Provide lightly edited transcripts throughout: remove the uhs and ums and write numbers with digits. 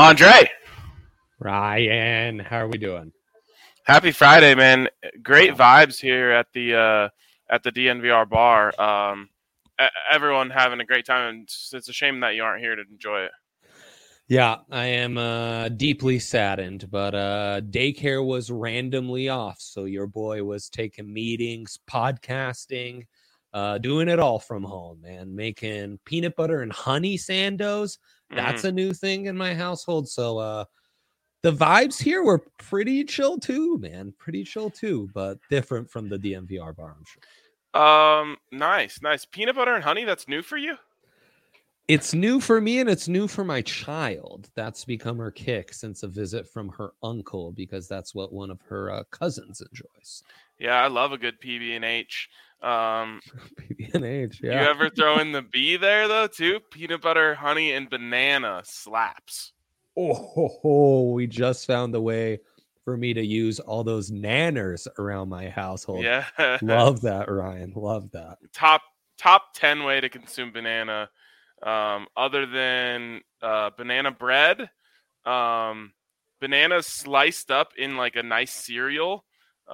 Andre. Ryan, how are we doing? Happy Friday, man. Great vibes here at the DNVR bar. Everyone having a great time. It's a shame that you aren't here to enjoy it. Yeah, I am deeply saddened, but daycare was randomly off, so your boy was taking meetings, podcasting, doing it all from home, man. Making peanut butter and honey sandos. That's a new thing in my household, so the vibes here were pretty chill too, man. Pretty chill too, but different from the DNVR bar, I'm sure. Nice. Peanut butter and honey, that's new for you? It's new for me and it's new for my child. That's become her kick since a visit from her uncle, because that's what one of her cousins enjoys. Yeah, I love a good PB&H. PB&H, yeah. You ever throw in the B there, though, too? Peanut butter, honey, and banana slaps. Oh, we just found the way for me to use all those nanners around my household. Yeah. Love that, Ryan. Love that. Top 10 way to consume banana. Other than banana bread, bananas sliced up in like a nice cereal.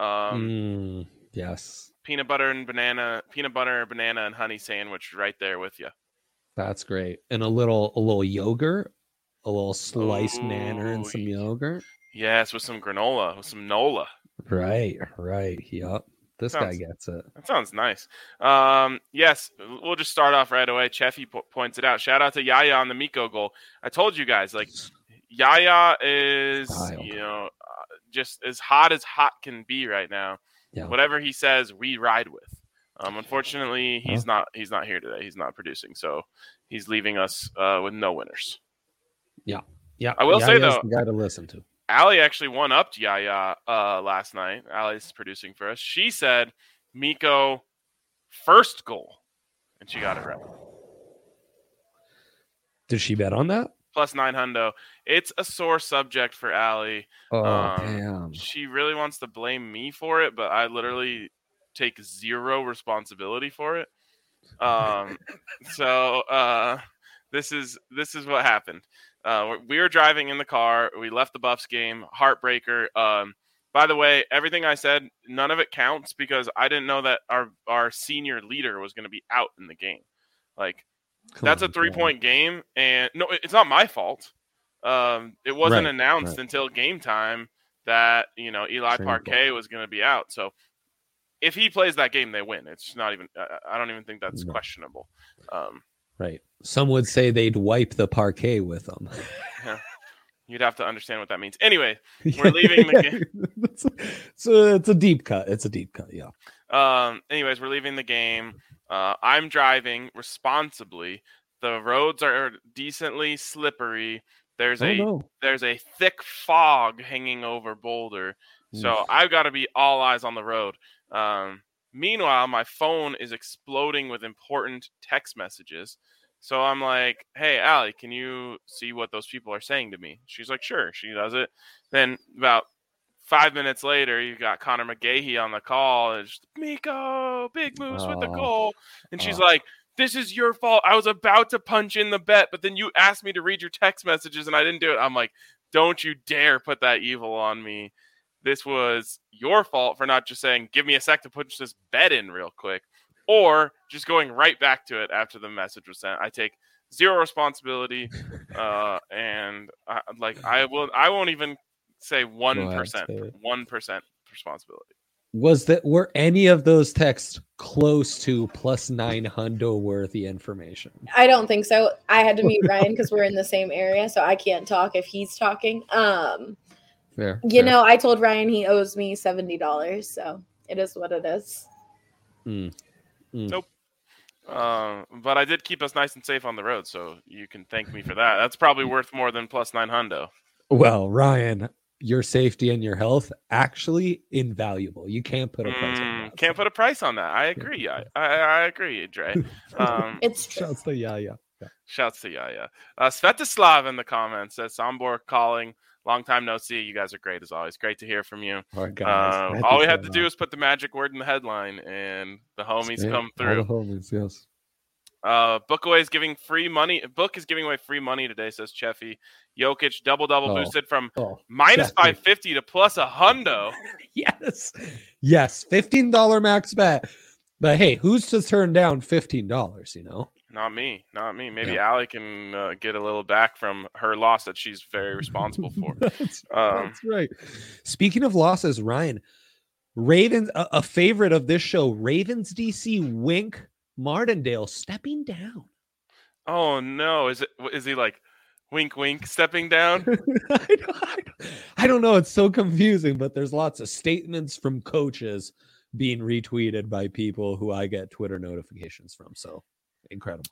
Yes. Peanut butter, banana, and honey sandwich right there with you. That's great. And a little yogurt, a little sliced nanner and some yogurt. Yes, with some granola, with some Nola. Right. Yep. This guy gets it. That sounds nice. Yes, we'll just start off right away. Cheffy points it out. Shout out to Yaya on the Miko goal. I told you guys, like, Yaya is, just as hot can be right now. Yeah. Whatever he says, we ride with. Unfortunately, he's not here today. He's not producing, so he's leaving us with no winners. Yeah. I will say though, the guy to listen to. Allie actually one-upped Yaya last night. Allie's producing for us. She said Miko first goal, and she got it right. Did she bet on that? Plus 900. It's a sore subject for Allie. Oh, damn. She really wants to blame me for it, but I literally take zero responsibility for it. So this is what happened. We were driving in the car. We left the Buffs game. Heartbreaker. By the way, everything I said, none of it counts because I didn't know that our senior leader was going to be out in the game. Like, that's a 3-point game, and no, it's not my fault. It wasn't announced until game time that Eli Parquet was going to be out. So if he plays that game, they win. It's not even. I don't even think that's questionable. Right. Some would say they'd wipe the parquet with them. Yeah. You'd have to understand what that means. Anyway, we're leaving the game. It's a deep cut. Yeah. Anyways, we're leaving the game. I'm driving responsibly. The roads are decently slippery. There's a thick fog hanging over Boulder. So I've got to be all eyes on the road. Meanwhile, my phone is exploding with important text messages. So I'm like, hey, Allie, can you see what those people are saying to me? She's like, sure. She does it. Then about 5 minutes later, you got Connor McGahey on the call. And it's Miko, Big Moose with the goal. And she's like, this is your fault. I was about to punch in the bet, but then you asked me to read your text messages and I didn't do it. I'm like, don't you dare put that evil on me. This was your fault for not just saying, give me a sec to push this bet in real quick, or just going right back to it after the message was sent. I take zero responsibility, and I won't even say 1%, 1% responsibility. Were any of those texts close to plus 900 worthy information? I don't think so. I had to mute Ryan because we're in the same area, so I can't talk if he's talking. Fair. I told Ryan he owes me $70, so it is what it is. Nope. But I did keep us nice and safe on the road, so you can thank me for that. That's probably worth more than plus 900. Well, Ryan, your safety and your health actually invaluable. You can't put a price on that. Can't put a price on that. I agree. I agree, Dre. It's true. Shouts to Yaya. Shouts to Yaya. Svetislav in the comments says Sombor calling. Long time no see. You guys are great as always. Great to hear from you. All right, guys. All we had to do is put the magic word in the headline, and the homies come through. All the homies, yes. Bookaway is giving free money. Book is giving away free money today, says Cheffy. Jokic double boosted from minus 550 to plus a hundo. Yes. $15 max bet. But hey, who's to turn down $15? You know, not me. Maybe Allie can get a little back from her loss that she's very responsible for. That's right. Speaking of losses, Ryan, Ravens, a favorite of this show, Ravens DC Wink Martindale stepping down. Oh no! Is he like wink stepping down? I don't know. It's so confusing, but there's lots of statements from coaches being retweeted by people who I get Twitter notifications from. So incredible.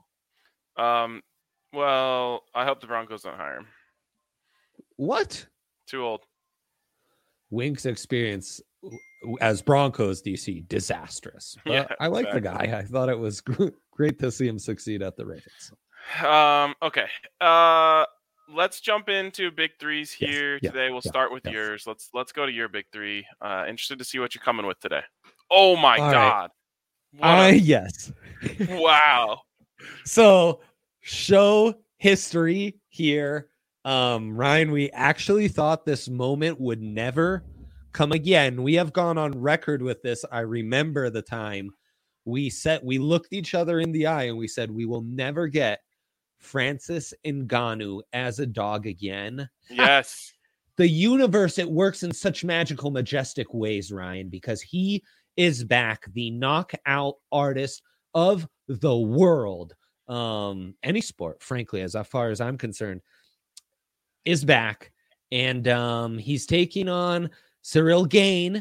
Well, I hope the Broncos don't hire him. What? Too old. Wink's experience as Broncos DC disastrous. I like the guy. I thought it was great to see him succeed at the Ravens. Okay. Let's jump into big threes here today. We'll start with yours. Let's go to your big three. Interested to see what you're coming with today. Oh my God. Yes. Wow. So show history here. Ryan, we actually thought this moment would never come again. We have gone on record with this. I remember the time we looked each other in the eye and we said, we will never get Francis Ngannou as a dog again. Yes. The universe, it works in such magical, majestic ways, Ryan, because he is back, the knockout artist of the world. Any sport, frankly, as far as I'm concerned, is back. And he's taking on Cyril Gane,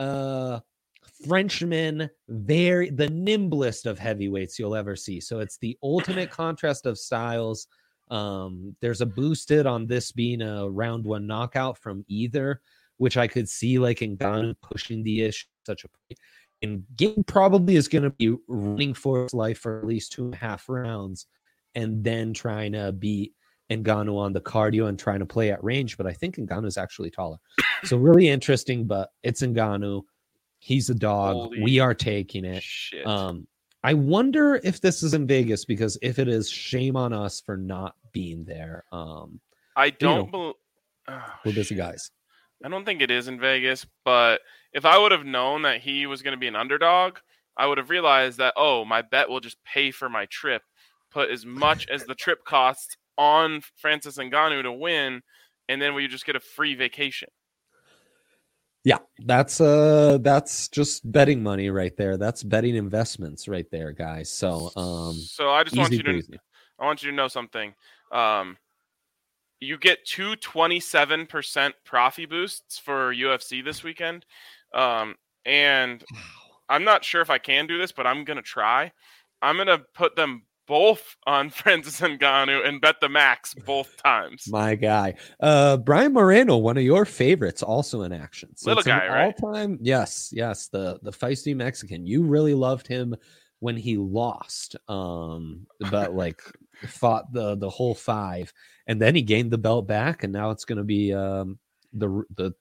Frenchman, the nimblest of heavyweights you'll ever see. So it's the ultimate contrast of styles. There's a boosted on this being a round one knockout from either, which I could see like Ngannou pushing the issue such a point. And Gane probably is going to be running for his life for at least 2.5 rounds and then trying to beat Ngannou on the cardio and trying to play at range. But I think Ngannou is actually taller. So really interesting, but it's Ngannou. He's a dog. Holy we are taking it. Shit. I wonder if this is in Vegas, because if it is, shame on us for not being there. I don't we're busy guys. I don't think it is in Vegas, but if I would have known that he was going to be an underdog, I would have realized that, my bet will just pay for my trip, put as much as the trip costs on Francis Ngannou to win, and then we just get a free vacation. Yeah, that's just betting money right there. That's betting investments right there, guys. So I just want you to know something. You get 2 27% profit boosts for UFC this weekend. And I'm not sure if I can do this, but I'm going to try. I'm going to put them both on Francis Ngannou and bet the max both times. My guy. Brian Moreno, one of your favorites, also in action. So little guy, right? All-time, yes, the feisty Mexican. You really loved him when he lost, but like fought the whole 5, and then he gained the belt back, and now it's going to be the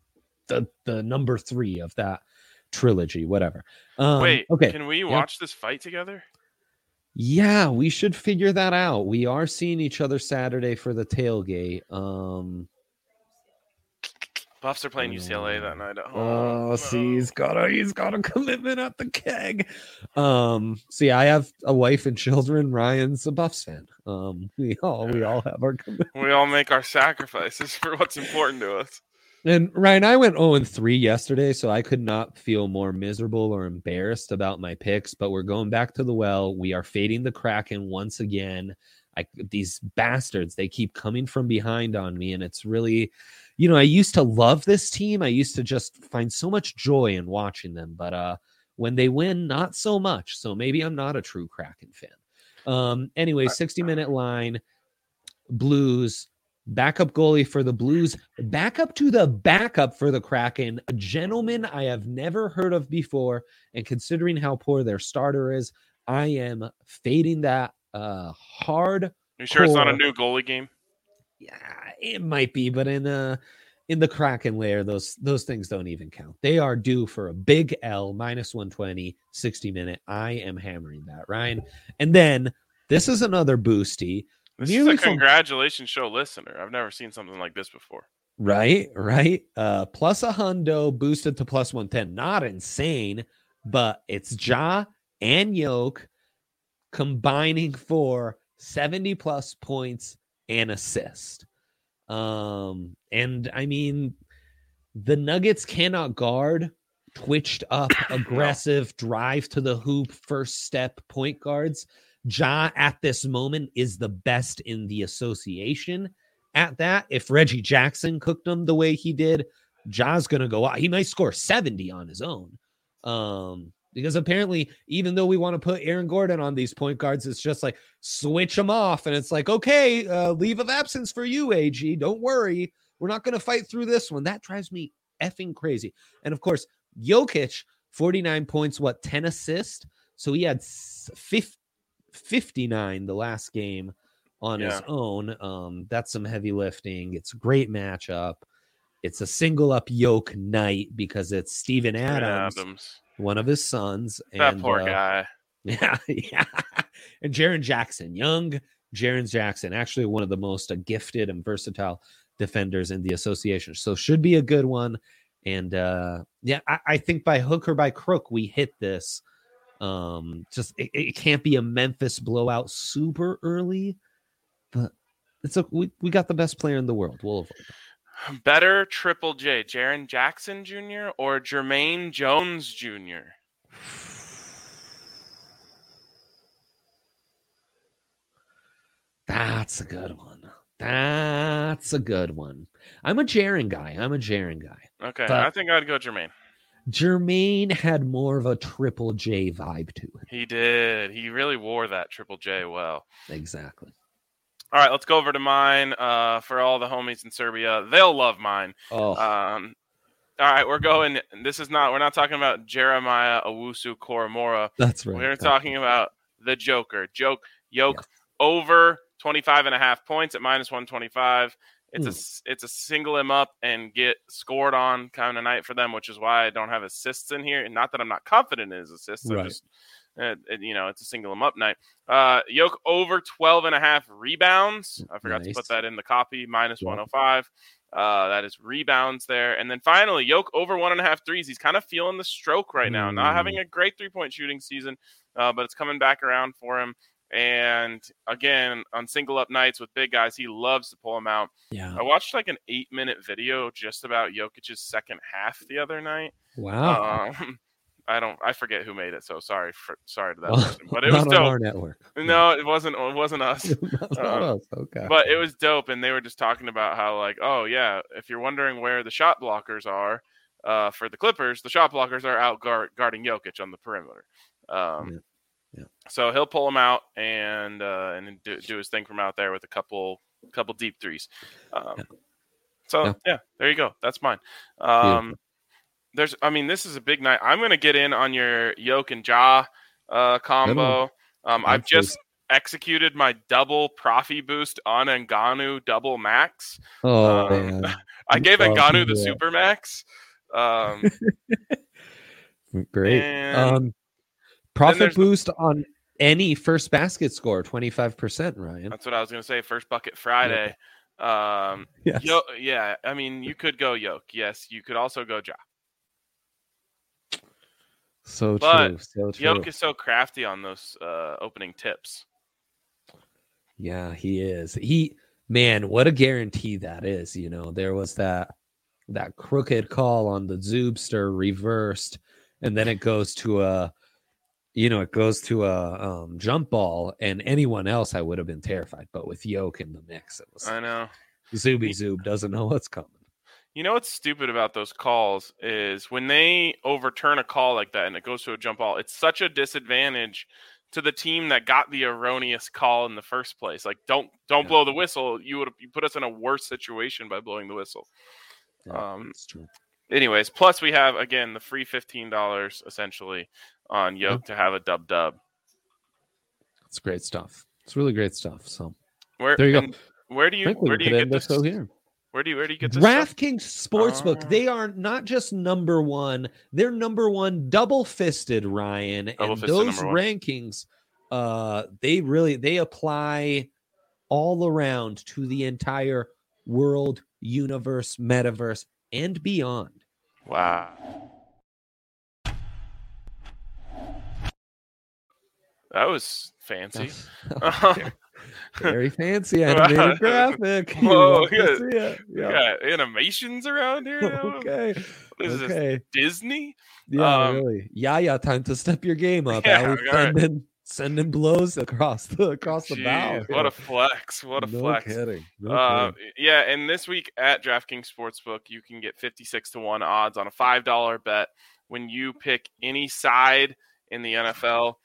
number 3 of that trilogy, whatever. Wait, okay, can we watch this fight together? Yeah, we should figure that out. We are seeing each other Saturday for the tailgate. Buffs are playing UCLA that night at home. Oh, see, he's got a commitment at the keg. See, I have a wife and children. Ryan's a Buffs fan. We all have our commitment. We all make our sacrifices for what's important to us. And Ryan, I went 0-3 yesterday, so I could not feel more miserable or embarrassed about my picks. But we're going back to the well. We are fading the Kraken once again. These bastards, they keep coming from behind on me, and it's really, I used to love this team. I used to just find so much joy in watching them, but when they win, not so much. So maybe I'm not a true Kraken fan. Anyway, 60-minute line, Blues. Backup goalie for the Blues, backup to the backup for the Kraken, a gentleman I have never heard of before. And considering how poor their starter is, I am fading that hard. You sure it's not a new goalie game? Yeah, it might be, but in in the Kraken layer, those things don't even count. They are due for a big L, minus 120, 60-minute. I am hammering that, Ryan. And then this is another boosty. This is a congratulations show listener. I've never seen something like this before. Right. Plus a hundo boosted to plus 110. Not insane, but it's Ja and Yoke combining for 70 plus points and assist. And I mean, the Nuggets cannot guard twitched up, aggressive drive to the hoop, first step point guards. Ja at this moment is the best in the association at that. If Reggie Jackson cooked him the way he did, Ja's going to go out. He might score 70 on his own. Because apparently, even though we want to put Aaron Gordon on these point guards, it's just like switch them off. And it's like, okay, leave of absence for you, AG. Don't worry. We're not going to fight through this one. That drives me effing crazy. And of course, Jokic, 49 points, 10 assists. So he had 59 the last game on his own. That's some heavy lifting. It's a great matchup. It's a single up Yoke night because it's Steven Adams. One of his sons. That poor guy. Yeah. And Jaren Jackson, young Jaren Jackson, actually one of the most gifted and versatile defenders in the association. So should be a good one. And I think by hook or by crook, we hit this. It can't be a Memphis blowout super early, but we got the best player in the world. We'll avoid that. Better Triple J, Jaren Jackson Jr. or Jermaine Jones Jr.? That's a good one. I'm a Jaren guy. Okay, I think I'd go Jermaine. Jermaine had more of a Triple J vibe to it. He did. He really wore that Triple J well. Exactly. All right, let's go over to mine. For all the homies in Serbia, they'll love mine. Oh. All right, we're going. We're not talking about Jeremiah Owusu-Koramoah. That's right. We're talking about the Joker. Yoke over 25.5 points at minus 125. It's a single him up and get scored on kind of night for them, which is why I don't have assists in here. And not that I'm not confident in his assists. Right. Just, it's a single him up night. Yoke over 12.5 rebounds. I forgot to put that in the copy. Minus 105. That is rebounds there. And then finally, Yoke over 1.5 threes. He's kind of feeling the stroke right now. Not having a great 3-point shooting season, but it's coming back around for him. And again, on single up nights with big guys, he loves to pull them out. Yeah. I watched like an 8-minute video just about Jokic's second half the other night. Wow. I forget who made it, so sorry to that person. But it was dope. On our network. No, it wasn't us. Okay. But it was dope, and they were just talking about how, like, oh yeah, if you're wondering where the shot blockers are for the Clippers, the shot blockers are out guarding Jokic on the perimeter. So he'll pull him out and do his thing from out there with a couple deep threes. There you go. That's mine. This is a big night. I'm going to get in on your Yoke and Ja combo. I've just executed my double Profi boost on Ngannou double max. I gave Ngannou the super max. Great. Profit boost on any first basket score, 25%, Ryan. That's what I was going to say. First bucket Friday. Yes. You could go Yoke. Yes, you could also go Ja. So true. Yoke is so crafty on those opening tips. Yeah, he is. What a guarantee that is. There was that crooked call on the Zoobster reversed, and then it goes to a jump ball, and anyone else I would have been terrified. But with Yoke in the mix, it was. I know. Zoob doesn't know what's coming. You know what's stupid about those calls is when they overturn a call like that and it goes to a jump ball, it's such a disadvantage to the team that got the erroneous call in the first place. Like, don't blow the whistle. You put us in a worse situation by blowing the whistle. That's true. Anyways, plus we have, again, the free $15 essentially on Yoke to have a dub. It's great stuff. It's really great stuff. So there you go. Where do you get this? Here. Where do you get this DraftKings Sportsbook? They are not just number one; they're number one, double-fisted, Ryan. And those rankings, they apply all around to the entire world, universe, metaverse, and beyond. Wow. That was fancy. Very fancy animated graphic. Whoa, we got animations around here. Okay. What is this? Disney? Yeah, really. Yeah. Time to step your game up. Sending blows across the bow. What a flex. What a flex. Kidding. Yeah, and this week at DraftKings Sportsbook, you can get 56-1 odds on a $5 bet when you pick any side in the NFL.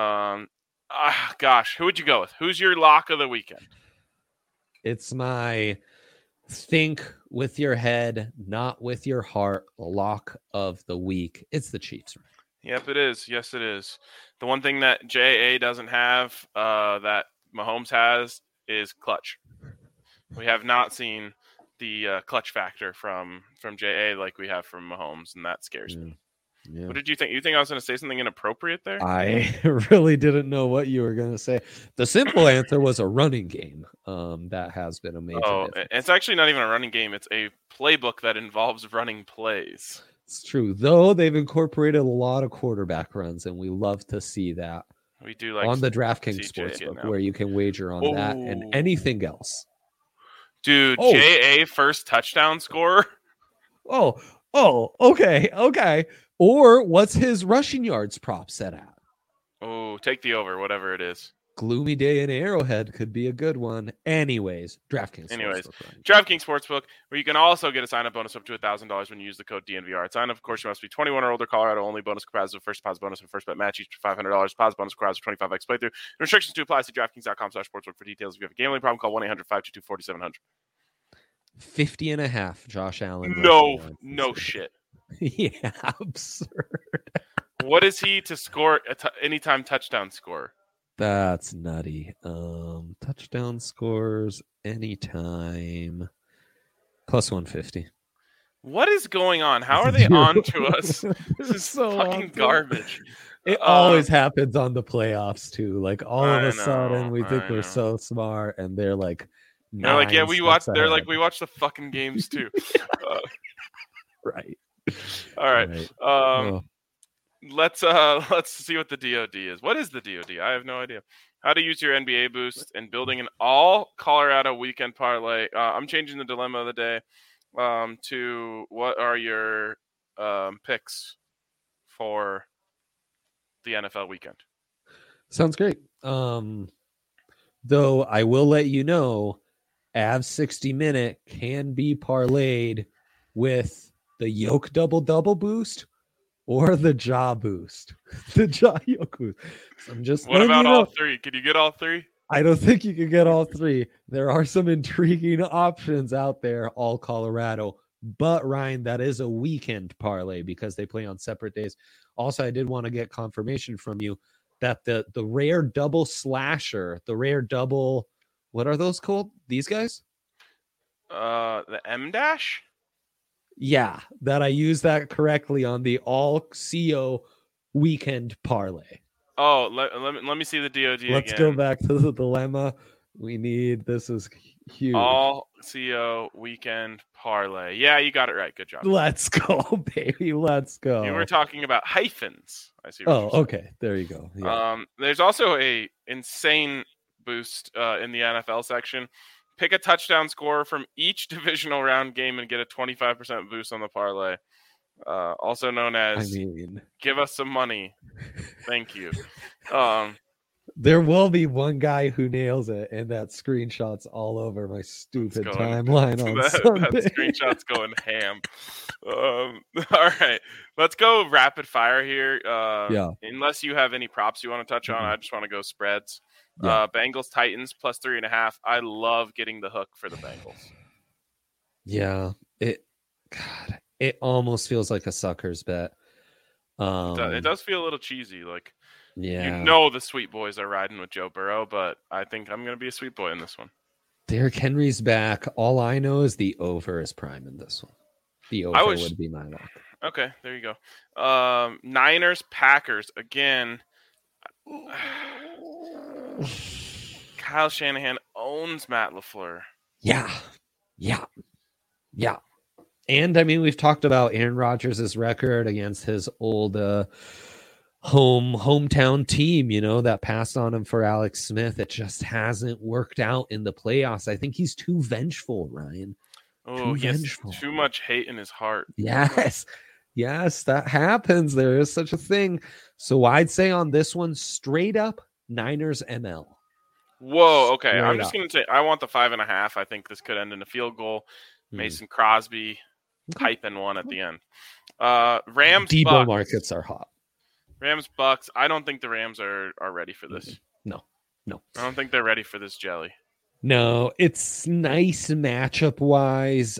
Gosh, who would you go with? Who's your lock of the weekend? It's my think with your head, not with your heart lock of the week. It's the Chiefs. Yep, it is. Yes, it is. The one thing that J.A. doesn't have that Mahomes has is clutch. We have not seen the clutch factor from J.A. like we have from Mahomes, and that scares me. Yeah. What did you think? You think I was going to say something inappropriate there? I really didn't know what you were going to say. The simple answer was a running game. That has been a major difference. It's actually not even a running game. It's a playbook that involves running plays. It's true, though they've incorporated a lot of quarterback runs, and we love to see that. We do like on the DraftKings Sportsbook, where you can wager on that and anything else. Dude, J.A. first touchdown scorer. Okay. Or what's his rushing yards prop set at? Oh, take the over, whatever it is. Gloomy day in Arrowhead could be a good one. DraftKings Sportsbook, where you can also get a sign-up bonus up to $1,000 when you use the code DNVR. Sign up, of course, you must be 21 or older. Colorado only. Bonus comprised of first deposit bonus and first bet match each for $500. Deposit bonus comprised of 25x playthrough. Restrictions to apply. See DraftKings.com/sportsbook for details. If you have a gambling problem, call 1-800-522-4700. 50.5. Josh Allen. No shit. Yeah, absurd. What is he to score anytime touchdown score? That's nutty. Touchdown scores anytime plus 150. What is going on? How are they on to us? This is so fucking garbage. It always happens on the playoffs too. Like all of a sudden we think we're so smart, and they're like, they're like, yeah, we watch. They're like, we watch the fucking games too. Right. All right. Let's see what the DOD is. What is the DOD? I have no idea. How to use your NBA boost and building an all Colorado weekend parlay. I'm changing the dilemma of the day to what are your picks for the NFL weekend? Sounds great. Though I will let you know, Avs 60-minute can be parlayed with the Yoke double boost or the Jaw boost. The Jaw Yoke boost. So I'm just. What about all three? Can you get all three? I don't think you can get all three. There are some intriguing options out there, all Colorado. But Ryan, that is a weekend parlay because they play on separate days. Also, I did want to get confirmation from you that the rare double slasher, the rare double, what are those called? These guys? The M-dash? Yeah, that I used that correctly on the all CO weekend parlay. Oh, let me see the DOD Let's go back to the dilemma. This is huge. All CO weekend parlay. Yeah, you got it right. Good job. Let's go, baby. Let's go. You were talking about hyphens. I see. Okay. There you go. Yeah. There's also a insane boost in the NFL section. Pick a touchdown scorer from each divisional round game and get a 25% boost on the parlay. Also known as give us some money. Thank you. There will be one guy who nails it, and that screenshot's all over my stupid timeline on Sunday. That screenshot's going ham. All right. Let's go rapid fire here. Unless you have any props you want to touch on, I just want to go spreads. Yeah. Bengals Titans plus 3.5. I love getting the hook for the Bengals. Yeah, it almost feels like a sucker's bet. It does feel a little cheesy. Like, yeah, the sweet boys are riding with Joe Burrow, but I think I'm going to be a sweet boy in this one. Derrick Henry's back. All I know is the over is prime in this one. The over would be my lock. Okay, there you go. Niners, Packers. Again, Kyle Shanahan owns Matt LaFleur. Yeah. And I mean, we've talked about Aaron Rodgers' record against his old hometown team, that passed on him for Alex Smith. It just hasn't worked out in the playoffs. I think he's too vengeful, Ryan. Oh, he has too much hate in his heart. Yes, that happens. There is such a thing. So I'd say on this one, straight up Niners ML. Whoa, okay. I'm just going to say I want the 5.5. I think this could end in a field goal. Mason Crosby piping one at the end. Rams, Debo Bucks. Markets are hot. Rams, Bucks. I don't think the Rams are ready for this. No. I don't think they're ready for this jelly. No, it's nice matchup wise.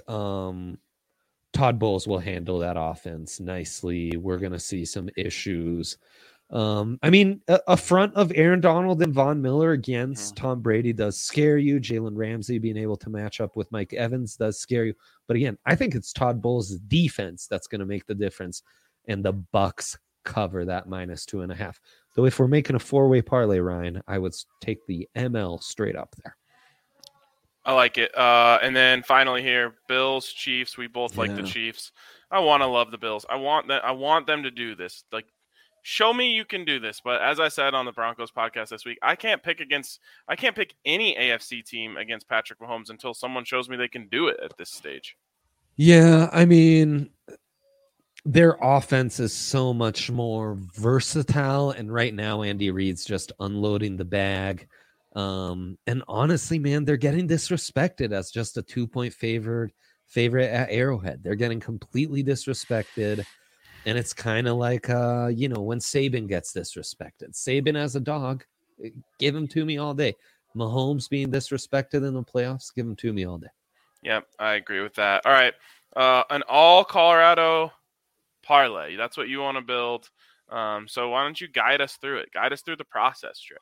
Todd Bowles will handle that offense nicely. We're going to see some issues. I mean, a front of Aaron Donald and Von Miller against Tom Brady does scare you. Jalen Ramsey being able to match up with Mike Evans does scare you. But again, I think it's Todd Bowles' defense that's going to make the difference. And the Bucks cover that -2.5. Though if we're making a 4-way parlay, Ryan, I would take the ML straight up there. I like it. And then finally here, Bills, Chiefs. We both like the Chiefs. I want to love the Bills. I want them to do this. Like, show me you can do this. But as I said on the Broncos podcast this week, I can't pick any AFC team against Patrick Mahomes until someone shows me they can do it at this stage. Yeah, I mean, their offense is so much more versatile, and right now Andy Reid's just unloading the bag. And honestly, man, they're getting disrespected as just a 2-point favorite at Arrowhead. They're getting completely disrespected. And it's kind of like, when Saban gets disrespected. Saban as a dog, give him to me all day. Mahomes being disrespected in the playoffs, give him to me all day. Yeah, I agree with that. All right. An all Colorado parlay. That's what you want to build. So why don't you guide us through it? Guide us through the process, Trey.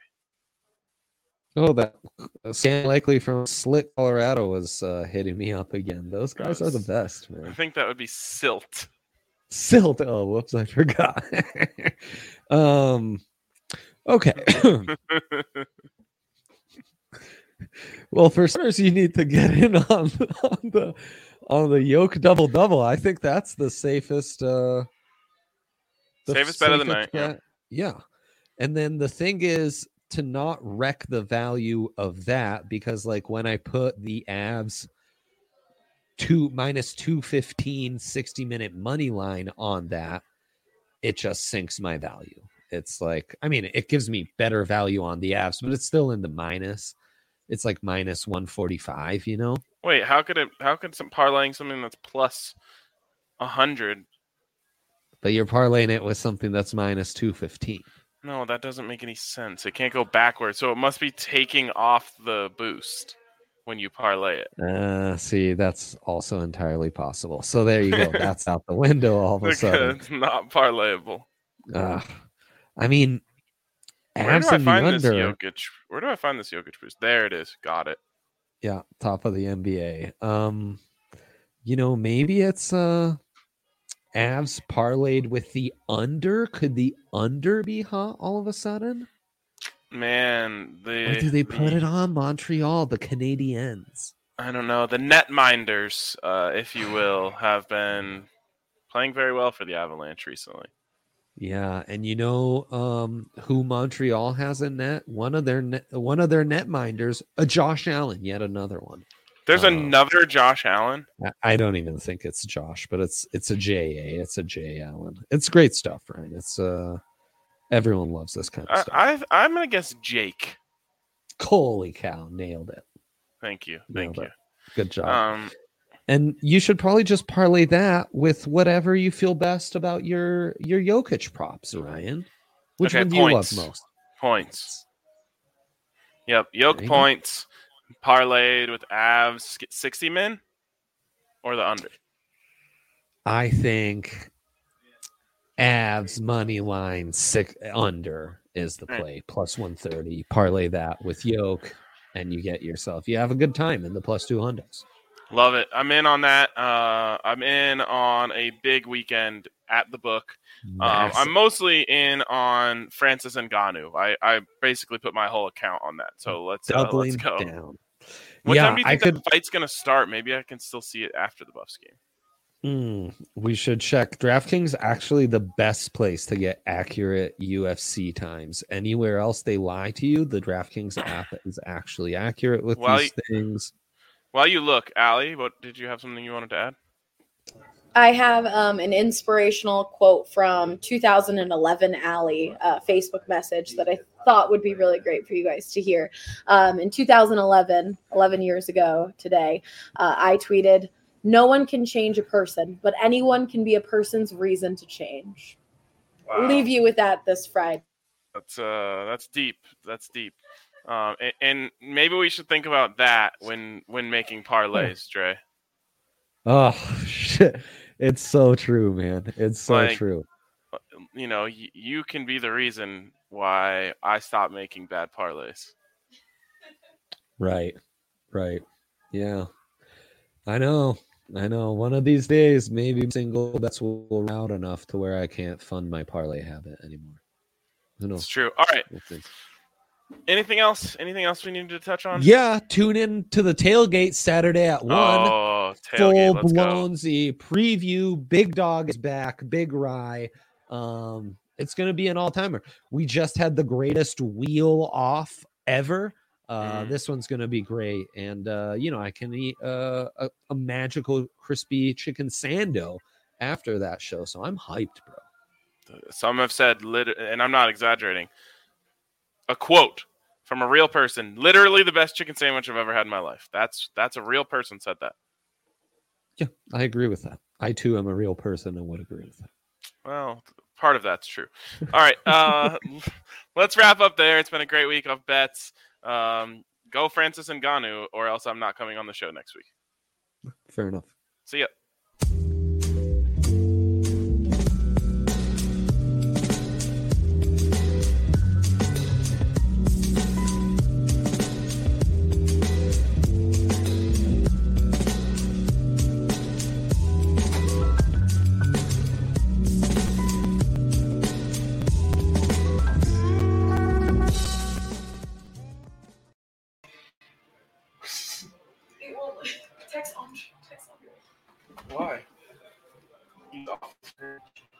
Oh, that Stan Likely from Slick, Colorado was hitting me up again. Those guys are the best, man. I think that would be Silt. Silt. Oh, whoops, I forgot. Okay. Well, for starters, you need to get in on the Yoke double. I think that's the safest. Safest bet of the night. Yeah. And then the thing is to not wreck the value of that, because like when I put the Avs -215 60-minute money line on that, it just sinks my value. It's like, I mean, it gives me better value on the Avs, but it's still in the minus. It's like -145, Wait, how could some parlaying something that's plus 100? But you're parlaying it with something that's -215. No, that doesn't make any sense. It can't go backwards, so it must be taking off the boost when you parlay it. See, that's also entirely possible. So there you go. That's out the window all of a sudden. It's not parlayable. I mean, where do I find this Jokic boost? There it is. Got it. Yeah, top of the NBA. Maybe it's Avs parlayed with the under. Could the under be hot all of a sudden? Man, or do they put it on Montreal, the Canadiens? I don't know. The netminders, if you will, have been playing very well for the Avalanche recently. Yeah, and who Montreal has in net? One of their netminders, a Josh Allen, yet another one. There's another Josh Allen. I don't even think it's Josh, but it's a J.A. It's a J. Allen. It's great stuff, right? It's everyone loves this kind of stuff. I'm gonna guess Jake. Holy cow! Nailed it. Thank you. Good job. And you should probably just parlay that with whatever you feel best about your Jokic props, Ryan. Which one do you love most? Points. Yep, Jokic points. Parlayed with Avs 60 min or the under? I think Avs money line under is the play. Plus 130. Parlay that with Yoke. and you have a good time in the plus 200s. Love it. I'm in on that. I'm in on a big weekend at the book. I'm mostly in on Francis Ngannou. I basically put my whole account on that. So let's go. Down. What time do you think the fight's going to start? Maybe I can still see it after the Buffs game. We should check. DraftKings actually the best place to get accurate UFC times. Anywhere else they lie to you, the DraftKings app is actually accurate with these things. While you look, Allie, did you have something you wanted to add? I have an inspirational quote from 2011 Allie Facebook message that I thought would be really great for you guys to hear. In 2011, 11 years ago today, I tweeted, "No one can change a person, but anyone can be a person's reason to change." Wow. Leave you with that this Friday. That's deep. That's deep. And maybe we should think about that when making parlays, Dre. Oh shit! It's so true, man. It's so true. You know, you can be the reason why I stopped making bad parlays. Right. Yeah, I know. One of these days, maybe single bets will round enough to where I can't fund my parlay habit anymore. Who knows? It's true. All right. Anything else? Anything else we need to touch on? Yeah, tune in to the tailgate Saturday at 1. Oh, tailgate, full blown Z preview. Big Dog is back. Big Rye. It's gonna be an all timer. We just had the greatest wheel off ever. This one's gonna be great, and I can eat a magical crispy chicken sando after that show. So I'm hyped, bro. Some have said, and I'm not exaggerating, a quote from a real person, literally the best chicken sandwich I've ever had in my life. That's a real person said that. Yeah, I agree with that. I too am a real person and would agree with that. Well, part of that's true. All right, let's wrap up there. It's been a great week of bets. Go Francis Ngannou, or else I'm not coming on the show next week. Fair enough. See ya. Text on. Why?